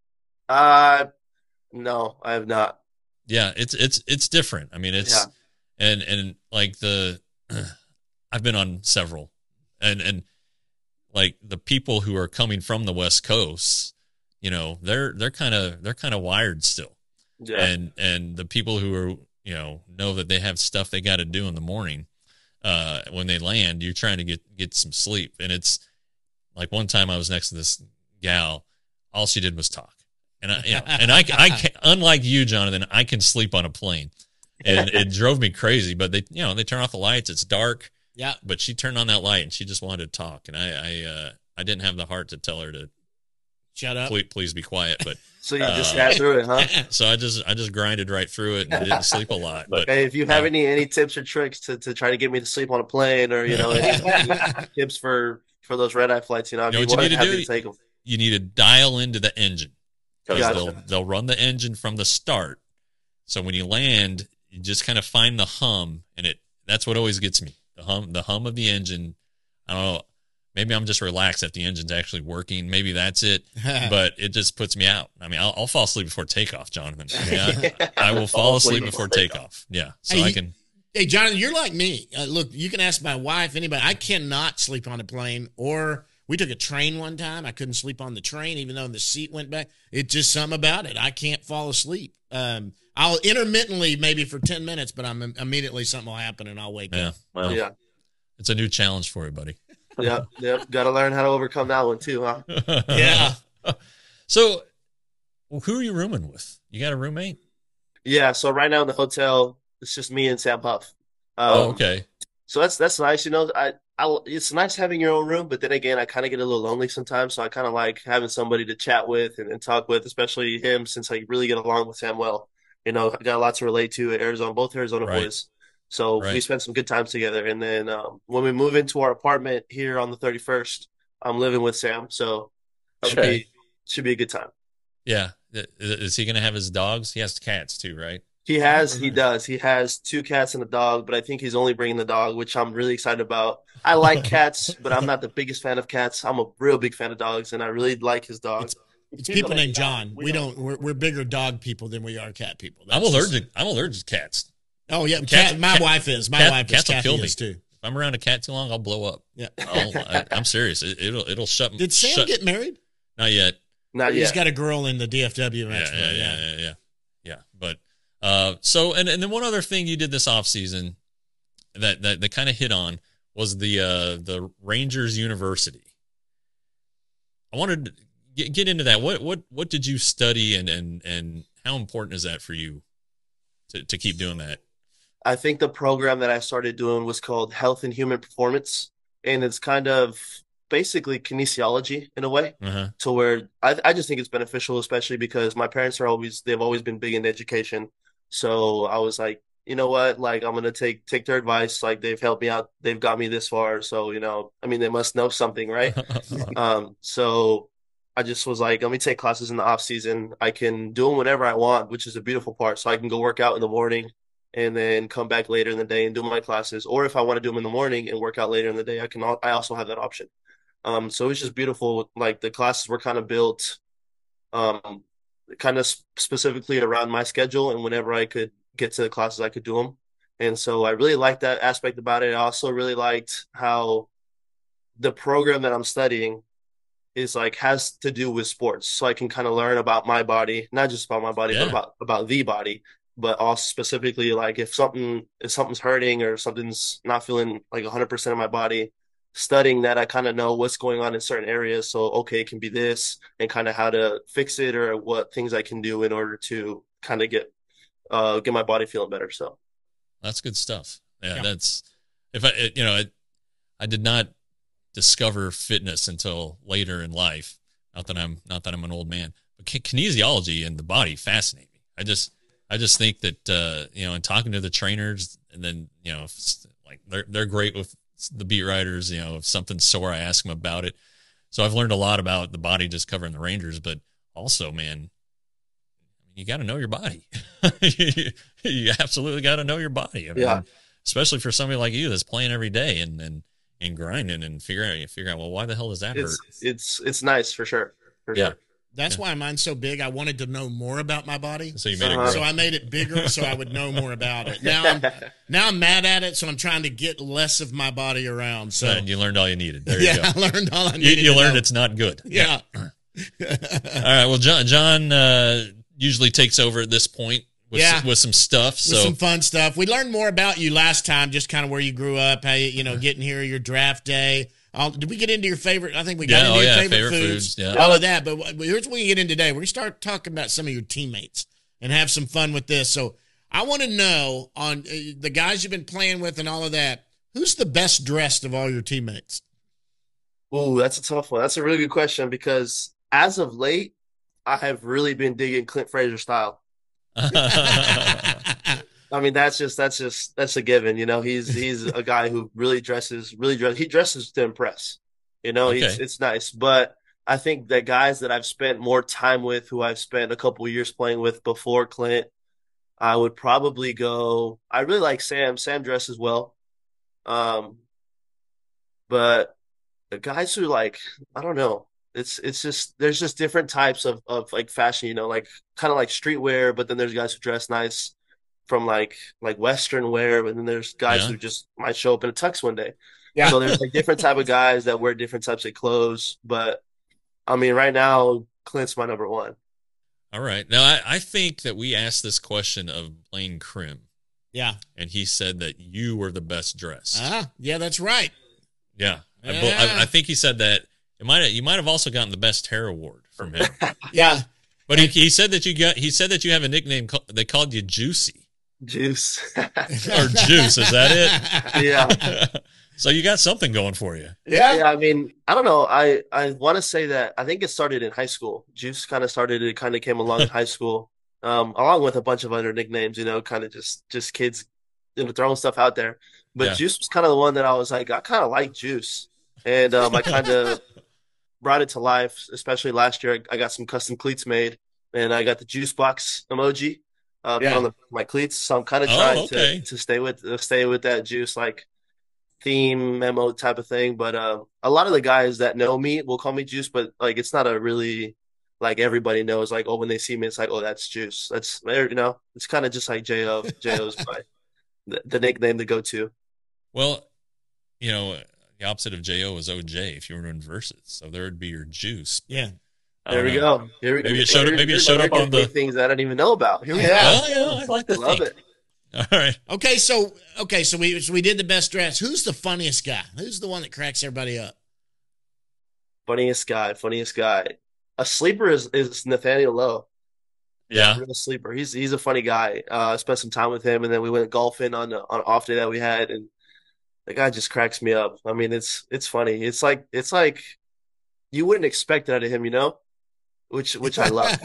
No, I have not. Yeah, it's different. I mean, and like I've been on several, and like the people who are coming from the West Coast, they're kind of wired still. Yeah. And the people who are, know that they have stuff they got to do in the morning, when they land, you're trying to get some sleep. And it's like one time I was next to this gal, all she did was talk. And I can, unlike you, Jonathan, I can sleep on a plane, and it drove me crazy. But they turn off the lights. It's dark. Yeah. But she turned on that light and she just wanted to talk. And I didn't have the heart to tell her to shut up. Please be quiet. But so you just sat through it, huh? So I just grinded right through it and didn't sleep a lot. But hey, if you have any tips or tricks to try to get me to sleep on a plane, or any tips for those red eye flights, I'd be more than happy to take them. You need to dial into the engine. Gotcha. They'll run the engine from the start. So when you land, you just kind of find the hum, and that's what always gets me. The hum of the engine. I don't know. Maybe I'm just relaxed that the engine's actually working. Maybe that's it. But it just puts me out. I mean, I'll fall asleep before takeoff, Jonathan. I will fall asleep before takeoff. Yeah. So I can. Hey, Jonathan, you're like me. Look, you can ask my wife, anybody. I cannot sleep on a plane, or we took a train one time. I couldn't sleep on the train, even though the seat went back. It's just something about it. I can't fall asleep. I'll intermittently, maybe for 10 minutes, but I'm immediately something will happen and I'll wake up. Well, yeah. It's a new challenge for you, buddy. Yep. Got to learn how to overcome that one too, huh? Yeah. So, who are you rooming with? You got a roommate? Yeah. So right now in the hotel, it's just me and Sam Huff. Okay. So that's nice. It's nice having your own room, but then again, I kind of get a little lonely sometimes. So I kind of like having somebody to chat with and talk with, especially him, since I really get along with Sam well. I got a lot to relate to at Arizona, both Arizona boys. So we spent some good times together. And then when we move into our apartment here on the 31st, I'm living with Sam. So should be a good time. Yeah. Is he going to have his dogs? He has cats too, right? He does. He has 2 cats and a dog, but I think he's only bringing the dog, which I'm really excited about. I like cats, but I'm not the biggest fan of cats. I'm a real big fan of dogs, and I really like his dog. It's people named John. We're bigger dog people than we are cat people. I'm allergic to cats. Oh yeah, my wife is. My wife is. Cats will kill me too. If I'm around a cat too long, I'll blow up. Yeah, I'm serious. It'll shut me. Did Sam get married? Not yet. He's got a girl in the DFW. Yeah. But so and then one other thing you did this off season that kind of hit on was the Rangers University. I wanted to get into that. What did you study and how important is that for you to keep doing that? I think the program that I started doing was called Health and Human Performance, and it's kind of basically kinesiology in a way, to where I just think it's beneficial, especially because my parents they've always been big in education. So I was like, you know what, like I'm going to take their advice. Like they've helped me out. They've got me this far. So, I mean, they must know something, right? So I just was like, let me take classes in the off season. I can do them whenever I want, which is a beautiful part. So I can go work out in the morning and then come back later in the day and do my classes. Or if I want to do them in the morning and work out later in the day, I also have that option. So it's just beautiful. Like the classes were kind of built, kind of specifically around my schedule, and whenever I could get to the classes, I could do them. And so I really liked that aspect about it. I also really liked how the program that I'm studying is has to do with sports. So I can kind of learn about my body, not just about my body, but about the body, but also specifically if something's hurting or something's not feeling like 100% of my body, studying that, I kind of know what's going on in certain areas. So, okay, it can be this, and kind of how to fix it or what things I can do in order to kind of get my body feeling better. So that's good stuff. Yeah. That's, if I did not discover fitness until later in life. Not that I'm an old man, but kinesiology and the body fascinate me. I just think that, in talking to the trainers, and then, like they're great with the beat writers, if something's sore, I ask them about it. So I've learned a lot about the body just covering the Rangers, but also, man, you got to know your body. You absolutely got to know your body. I mean, especially for somebody like you that's playing every day and grinding and figure out, well, why the hell does that hurt? It's nice for sure. Sure. That's why mine's so big. I wanted to know more about my body. So you made it grow. So I made it bigger so I would know more about it. Now I'm mad at it, so I'm trying to get less of my body around. So and you learned all you needed. There you go. I learned all I needed. You learned it's not good. Yeah. All right. Well, John usually takes over at this point with some stuff. With some fun stuff. We learned more about you last time, just kind of where you grew up, how you getting here, your draft day. Did we get into your favorite? I think we got into your favorite foods. All of that. But here's what we get in today. We're going to start talking about some of your teammates and have some fun with this. So I want to know, on the guys you've been playing with and all of that, who's the best dressed of all your teammates? Oh, that's a tough one. That's a really good question, because as of late, I have really been digging Clint Frazier style. I mean, that's a given. He's a guy who really dresses. He dresses to impress. It's nice. But I think that guys that I've spent more time with, who I've spent a couple of years playing with before Clint, I would probably go. I really like Sam. Sam dresses well. But the guys who, like, I don't know. It's just, there's just different types of like fashion, like kind of like streetwear, but then there's guys who dress nice from like Western wear, but then there's guys who just might show up in a tux one day. Yeah. So there's like different type of guys that wear different types of clothes. But I mean, right now, Clint's my number one. All right. Now, I think that we asked this question of Blaine Krim. Yeah. And he said that you were the best dressed. Yeah, that's right. Yeah. I think he said that. You might have also gotten the best hair award from him. Yeah. But he said that you have a nickname. They called you Juicy. Juice. Or Juice, is that it? Yeah. So you got something going for you. Yeah. I mean, I don't know. I want to say that I think it started in high school. Juice kind of came along in high school, along with a bunch of other nicknames, kind of just kids, throwing stuff out there. But Juice was kind of the one that I was like, I kind of like Juice. And I kind of brought it to life, especially last year. I got some custom cleats made, and I got the juice box emoji on my cleats. So I'm kind of trying to stay with that Juice like theme memo type of thing. But a lot of the guys that know me will call me Juice, but like it's not a really like everybody knows. Like, oh, when they see me, it's like, oh, that's Juice. That's it's kind of just like Jo. Jo's the nickname to go to. Well, the opposite of Jo is OJ if you were to inverse it. So there would be your Juice. Yeah. There we go. Maybe it showed up on the things I didn't even know about. Here we go. Well, I like to love it. All right. Okay, so we did the best dress. Who's the funniest guy? Who's the one that cracks everybody up? Funniest guy. A sleeper is Nathaniel Lowe. Yeah. Real sleeper. He's a funny guy. I spent some time with him, and then we went golfing on an off day that we had, and the guy just cracks me up. I mean, it's funny. It's like you wouldn't expect that of him, which I love.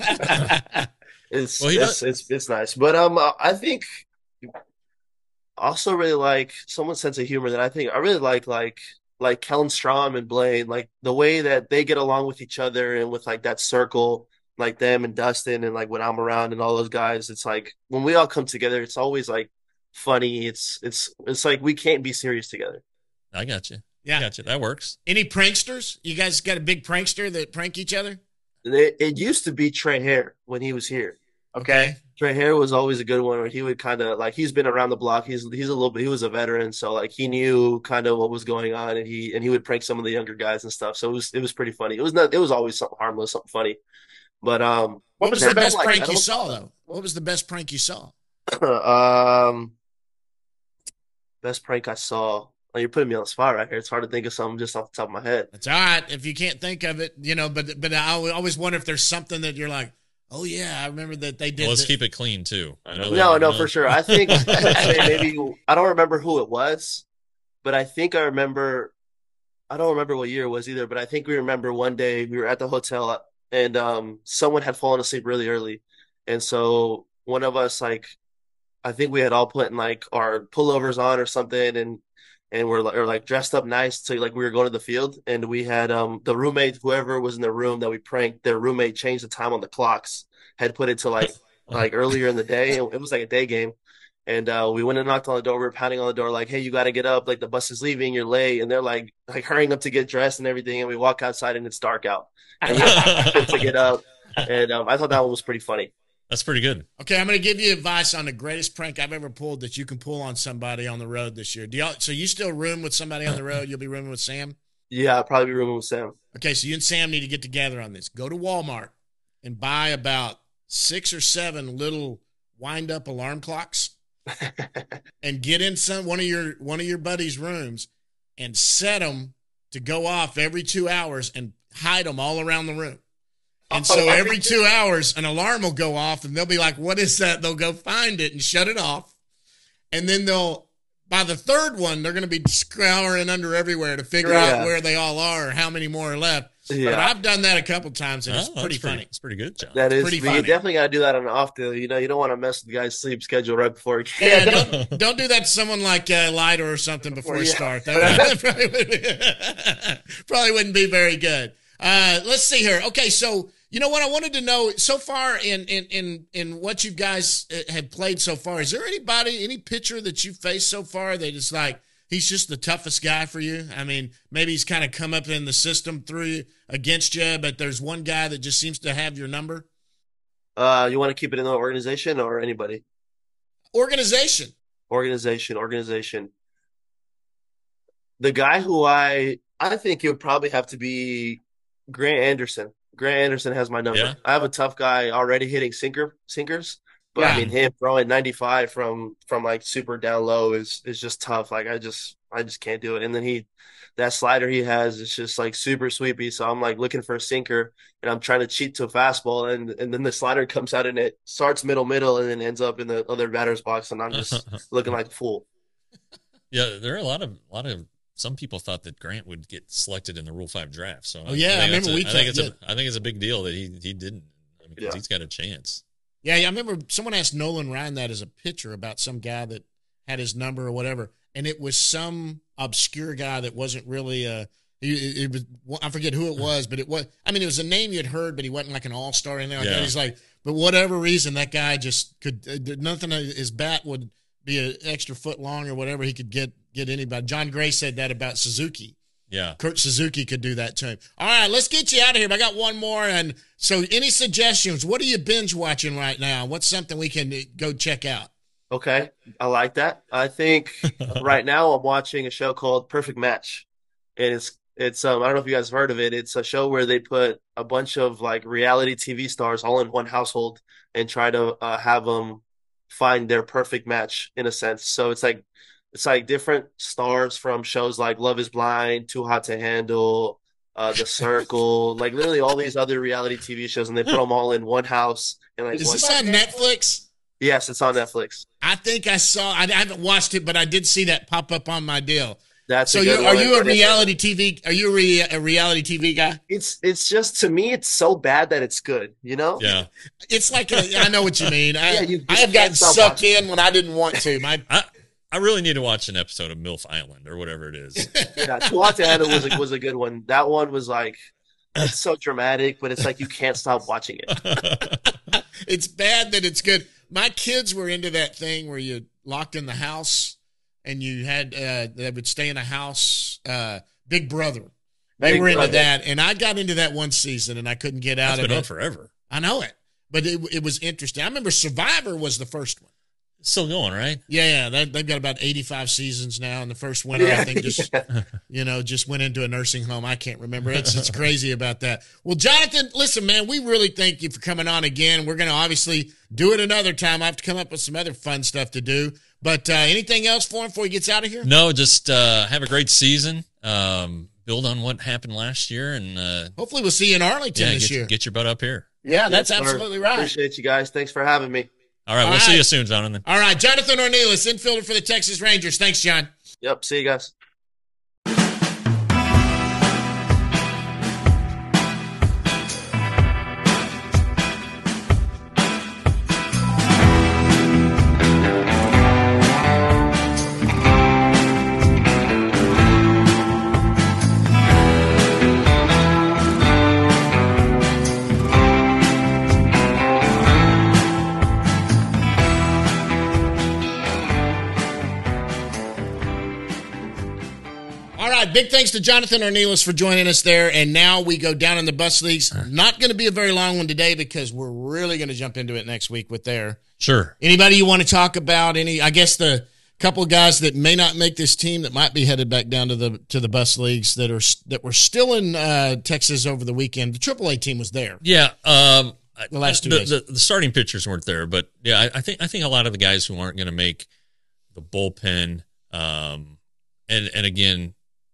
It's nice. But I think I also really like someone's sense of humor that I really like Kellen Strom and Blaine, like the way that they get along with each other and with like that circle, like them and Dustin, and like when I'm around and all those guys. It's like when we all come together, it's always like funny. It's like we can't be serious together. I got you. Yeah, I got you. That works. Any pranksters? You guys got a big prankster that prank each other? It used to be Trey Hare when he was here. Okay. Trey Hare was always a good one where he would kind of like, he's been around the block. He was a veteran. So like he knew kind of what was going on, and he would prank some of the younger guys and stuff. So it was pretty funny. It was always something harmless, something funny. But what was the best prank you saw though? What was the best prank you saw? Best prank I saw. Oh, you're putting me on the spot right here. It's hard to think of something just off the top of my head. That's all right if you can't think of it, but I always wonder if there's something that you're like, oh yeah, I remember that they did. Well, let's keep it clean too. I know no, for sure. I think maybe I don't remember who it was, but I think I remember. I don't remember what year it was either, but I think we remember one day we were at the hotel and someone had fallen asleep really early, and so one of us I think we had all put in like our pullovers on or something, and we're like dressed up nice to like we were going to the field, and we had the roommate, whoever was in the room that we pranked, their roommate changed the time on the clocks, had put it to like earlier in the day. It was like a day game. And we went and knocked on the door. We were pounding on the door, like, "Hey, you got to get up! Like the bus is leaving. You're late." And they're like hurrying up to get dressed and everything. And we walk outside and it's dark out. And we have to get up. And I thought that one was pretty funny. That's pretty good. Okay, I'm going to give you advice on the greatest prank I've ever pulled that you can pull on somebody on the road this year. So you still room with somebody on the road? You'll be rooming with Sam? Yeah, I'll probably be rooming with Sam. Okay, so you and Sam need to get together on this. Go to Walmart and buy about 6 or 7 little wind-up alarm clocks. And get in one of your buddies' rooms and set them to go off every 2 hours and hide them all around the room. And so every 2 hours, an alarm will go off, and they'll be like, "What is that?" They'll go find it and shut it off. And then by the third one, they're going to be scouring under everywhere to figure out where they all are or how many more are left. Yeah. But I've done that a couple times, and it's pretty funny. It's pretty good, John. That is pretty funny. You definitely got to do that on an off day. You don't want to mess with the guy's sleep schedule right before he can. Yeah, don't do that to someone like Leiter or something before you start. That probably wouldn't be very good. Let's see here. Okay, so you know what I wanted to know so far in what you guys have played so far. Is there any pitcher that you've faced so far that is like he's just the toughest guy for you? I mean, maybe he's kind of come up in the system against you, but there's one guy that just seems to have your number. You want to keep it in the organization or anybody? Organization. The guy who I think it would probably have to be Grant Anderson. Grant Anderson has my number. Yeah. I have a tough guy already hitting sinkers, but I mean him throwing 95 from like super down low is just tough. Like I just can't do it. And then that slider he has is just like super sweepy. So I'm like looking for a sinker and I'm trying to cheat to a fastball and then the slider comes out and it starts middle and then ends up in the other batter's box and I'm just looking like a fool. Yeah, there are a lot of some people thought that Grant would get selected in the Rule 5 draft. So I remember I think it's a big deal that he didn't. Because he's got a chance. Yeah, I remember someone asked Nolan Ryan that as a pitcher about some guy that had his number or whatever, and it was some obscure guy that wasn't really it was, I forget who it was, but it was a name you'd heard, but he wasn't like an all-star or anything like that. He's like, but whatever reason, that guy just could nothing. His bat would be an extra foot long or whatever. He could get anybody. John Gray said that about Suzuki. Yeah. Kurt Suzuki could do that to him. All right, let's get you out of here. I got one more. And so any suggestions? What are you binge watching right now? What's something we can go check out? Okay. I like that. I think right now I'm watching a show called Perfect Match. And it's I don't know if you guys have heard of it. It's a show where they put a bunch of like reality TV stars all in one household and try to have them find their perfect match in a sense. So it's like different stars from shows like Love is Blind, Too Hot to Handle, The Circle, like literally all these other reality TV shows, and they put them all in one house. And like, is this on Netflix? Yes, it's on Netflix. I think I saw. I haven't watched it, but I did see that pop up on my deal. That's so. Are you a reality TV? Are you a reality TV guy? It's just, to me, it's so bad that it's good. You know? Yeah. It's like I know what you mean. I have gotten sucked in when I didn't want to. I really need to watch an episode of MILF Island or whatever it is. Yeah, Too Hot to Handle was a good one. That one was like, it's so dramatic, but it's like you can't stop watching it. It's bad that it's good. My kids were into that thing where you locked in the house and you had they would stay in a house. Big Brother. They were into that, and I got into that one season and I couldn't get out of it. It's been on forever. I know it, but it was interesting. I remember Survivor was the first one. Still going, right? Yeah. They've got about 85 seasons now. And the first winner, I think, just went into a nursing home. I can't remember. It's crazy about that. Well, Jonathan, listen, man, we really thank you for coming on again. We're going to obviously do it another time. I have to come up with some other fun stuff to do. But anything else for him before he gets out of here? No, just have a great season. Build on what happened last year. And hopefully we'll see you in Arlington this year. Get your butt up here. Yeah, that's absolutely right. Appreciate you guys. Thanks for having me. All right, we'll see you soon, Jonathan. All right, Jonathan Ornelas, infielder for the Texas Rangers. Thanks, John. Yep, see you guys. Big thanks to Jonathan Ornelas for joining us there. And now we go down in the bus leagues. Not going to be a very long one today because we're really going to jump into it next week with there. Sure. Anybody you want to talk about? I guess the couple of guys that may not make this team that might be headed back down to the bus leagues that were still in Texas over the weekend. The AAA team was there. Yeah. The last 2 days. The starting pitchers weren't there, but yeah, I think a lot of the guys who aren't going to make the bullpen, and again,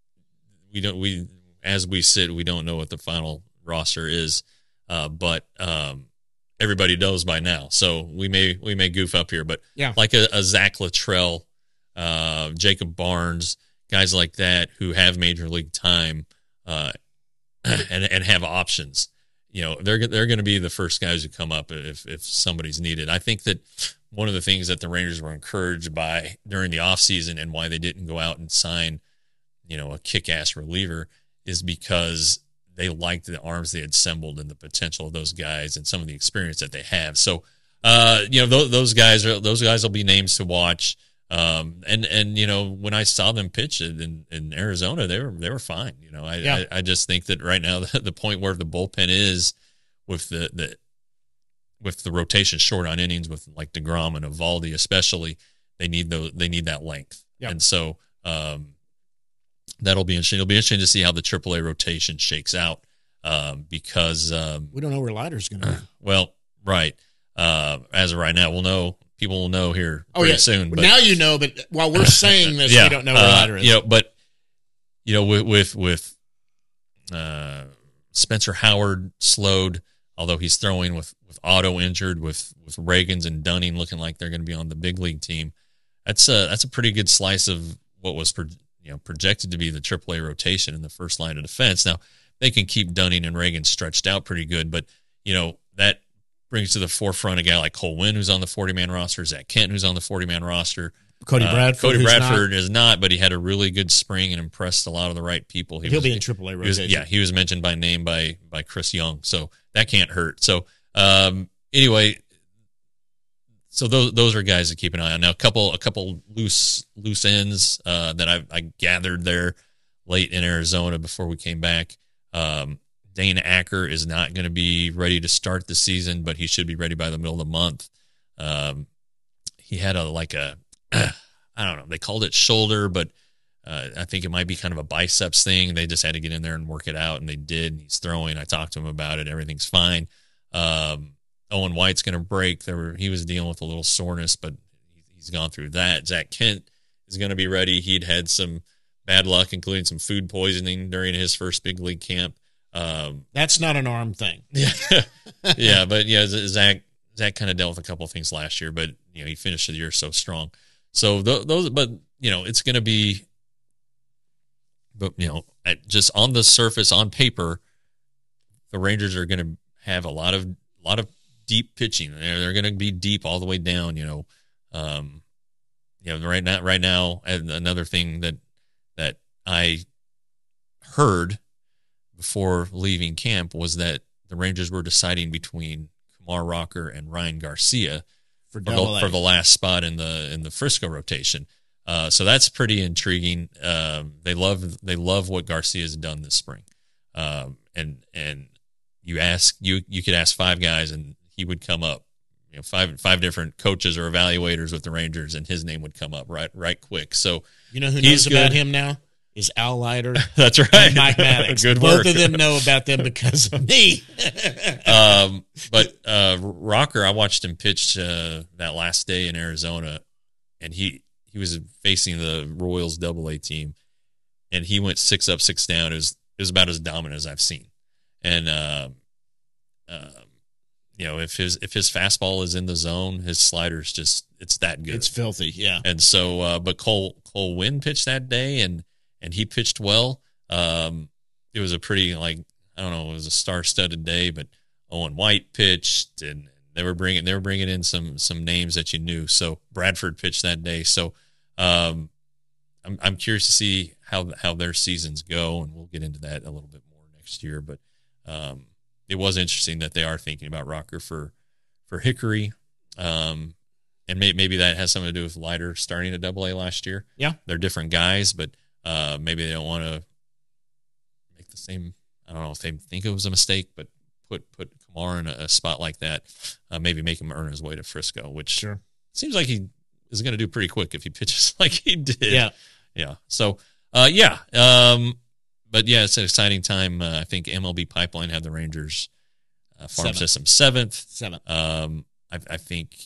as we sit, we don't know what the final roster is, but everybody knows by now. So we may goof up here, but yeah, like a Zach Luttrell, Jacob Barnes, guys like that who have major league time, and have options. They're going to be the first guys who come up if somebody's needed. I think that one of the things that the Rangers were encouraged by during the offseason and why they didn't go out and sign a kick-ass reliever is because they liked the arms they had assembled and the potential of those guys and some of the experience that they have. So, those guys will be names to watch. And when I saw them pitch in Arizona, they were fine. I just think that right now the point where the bullpen is with the rotation short on innings with like DeGrom and Eovaldi especially, they need that length. Yep. And so, that'll be interesting. It'll be interesting to see how the AAA rotation shakes out because we don't know where Leiter's going to be. Well, right. As of right now, people will know here pretty soon. But now but while we're saying this, we don't know where Leiter is. But with Spencer Howard slowed, although he's throwing with Otto injured, with Reagans and Dunning looking like they're going to be on the big league team. That's a pretty good slice of what was projected to be the AAA rotation in the first line of defense. Now, they can keep Dunning and Reagan stretched out pretty good, but, that brings to the forefront a guy like Cole Winn, who's on the 40-man roster, Zach Kent, who's on the 40-man roster. Cody Bradford is not, but he had a really good spring and impressed a lot of the right people. He'll be in AAA rotation. He was mentioned by name by Chris Young, so that can't hurt. So, anyway, so those are guys to keep an eye on. Now, a couple loose ends that I gathered there late in Arizona before we came back. Dane Acker is not going to be ready to start the season, but he should be ready by the middle of the month. He had I don't know, they called it shoulder, but I think it might be kind of a biceps thing. They just had to get in there and work it out, and they did. And he's throwing. I talked to him about it. Everything's fine. Owen White's going to break. He was dealing with a little soreness, but he's gone through that. Zach Kent is going to be ready. He'd had some bad luck, including some food poisoning during his first big league camp. That's not an arm thing. Yeah, but Zach kind of dealt with a couple of things last year, but he finished the year so strong. So those, but it's going to be, but just on the surface, on paper, the Rangers are going to have a lot of deep pitching. They're going to be deep all the way down. Right now, and another thing that I heard before leaving camp was that the Rangers were deciding between Kumar Rocker and Ryan Garcia for the last spot in the Frisco rotation. So that's pretty intriguing. They love what Garcia's done this spring. And you could ask 5 guys and he would come up, five different coaches or evaluators with the Rangers, and his name would come up right quick. So who knows about him now is Al Leiter. That's right. And Mike Maddox. Good Both work. of them know about them because of me. But Rocker, I watched him pitch that last day in Arizona, and he was facing the Royals AA team, and he went 6 up, 6 down. It was about as dominant as I've seen. And if his fastball is in the zone, his slider's it's that good. It's filthy, yeah. And so, but Cole Winn pitched that day, and he pitched well. It was a pretty, it was a star-studded day, but Owen White pitched, and they were bringing in some names that you knew. So Bradford pitched that day. So I'm curious to see how their seasons go, and we'll get into that a little bit more next year. But it was interesting that they are thinking about Rocker for Hickory, and maybe that has something to do with Leiter starting at AA last year. Yeah, they're different guys, but maybe they don't want to make the same. I don't know if they think it was a mistake, but put Kumar in a spot like that, maybe make him earn his way to Frisco, which seems like he is going to do pretty quick if he pitches like he did. Yeah. So but yeah, it's an exciting time. I think MLB Pipeline had the Rangers farm system 7th. I think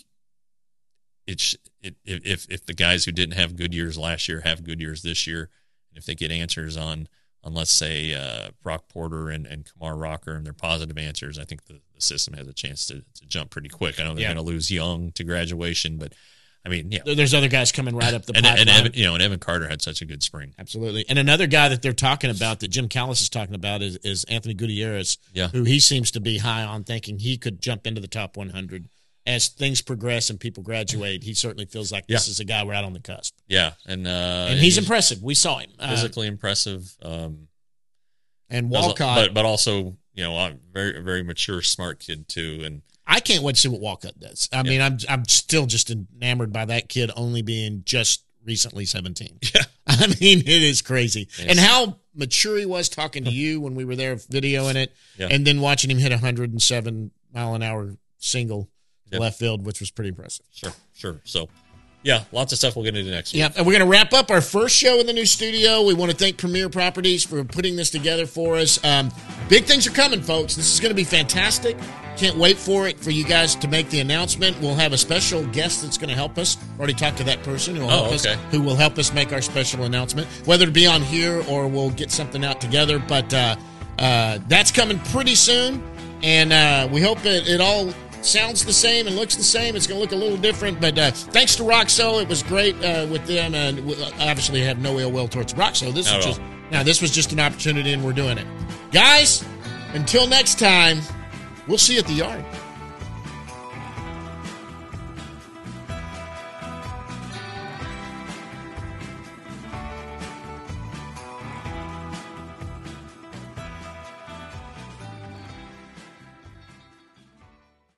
if the guys who didn't have good years last year have good years this year, and if they get answers on let's say Brock Porter and Kumar Rocker and their positive answers, I think the system has a chance to jump pretty quick. I know they're going to lose Young to graduation, but I mean, there's other guys coming right up the pipeline. And Evan Carter had such a good spring. Absolutely. And another guy that they're talking about, that Jim Callis is talking about, is Anthony Gutierrez, who he seems to be high on, thinking he could jump into the top 100. As things progress and people graduate, he certainly feels like this is a guy right on the cusp. Yeah, and he's impressive. We saw him. Physically impressive. And Walcott. But also, a very, very mature, smart kid, too. And I can't wait to see what Walcott does. I mean, I'm still just enamored by that kid only being just recently 17. Yeah. I mean, it is crazy. Yes. And how mature he was talking to you when we were there videoing it, and then watching him hit 107-mile-an-hour single left field, which was pretty impressive. Sure. So, yeah, lots of stuff we'll get into next week. Yeah, and we're going to wrap up our first show in the new studio. We want to thank Premier Properties for putting this together for us. Big things are coming, folks. This is going to be fantastic. Can't wait for you guys to make the announcement. We'll have a special guest that's going to help us. Already talked to that person who will help us make our special announcement, whether it be on here or we'll get something out together. But that's coming pretty soon, and we hope it all sounds the same and looks the same. It's going to look a little different, but thanks to Roxo, it was great with them, and we obviously have no ill will towards Roxo. This was just an opportunity, and we're doing it. Guys, until next time, we'll see you at the yard.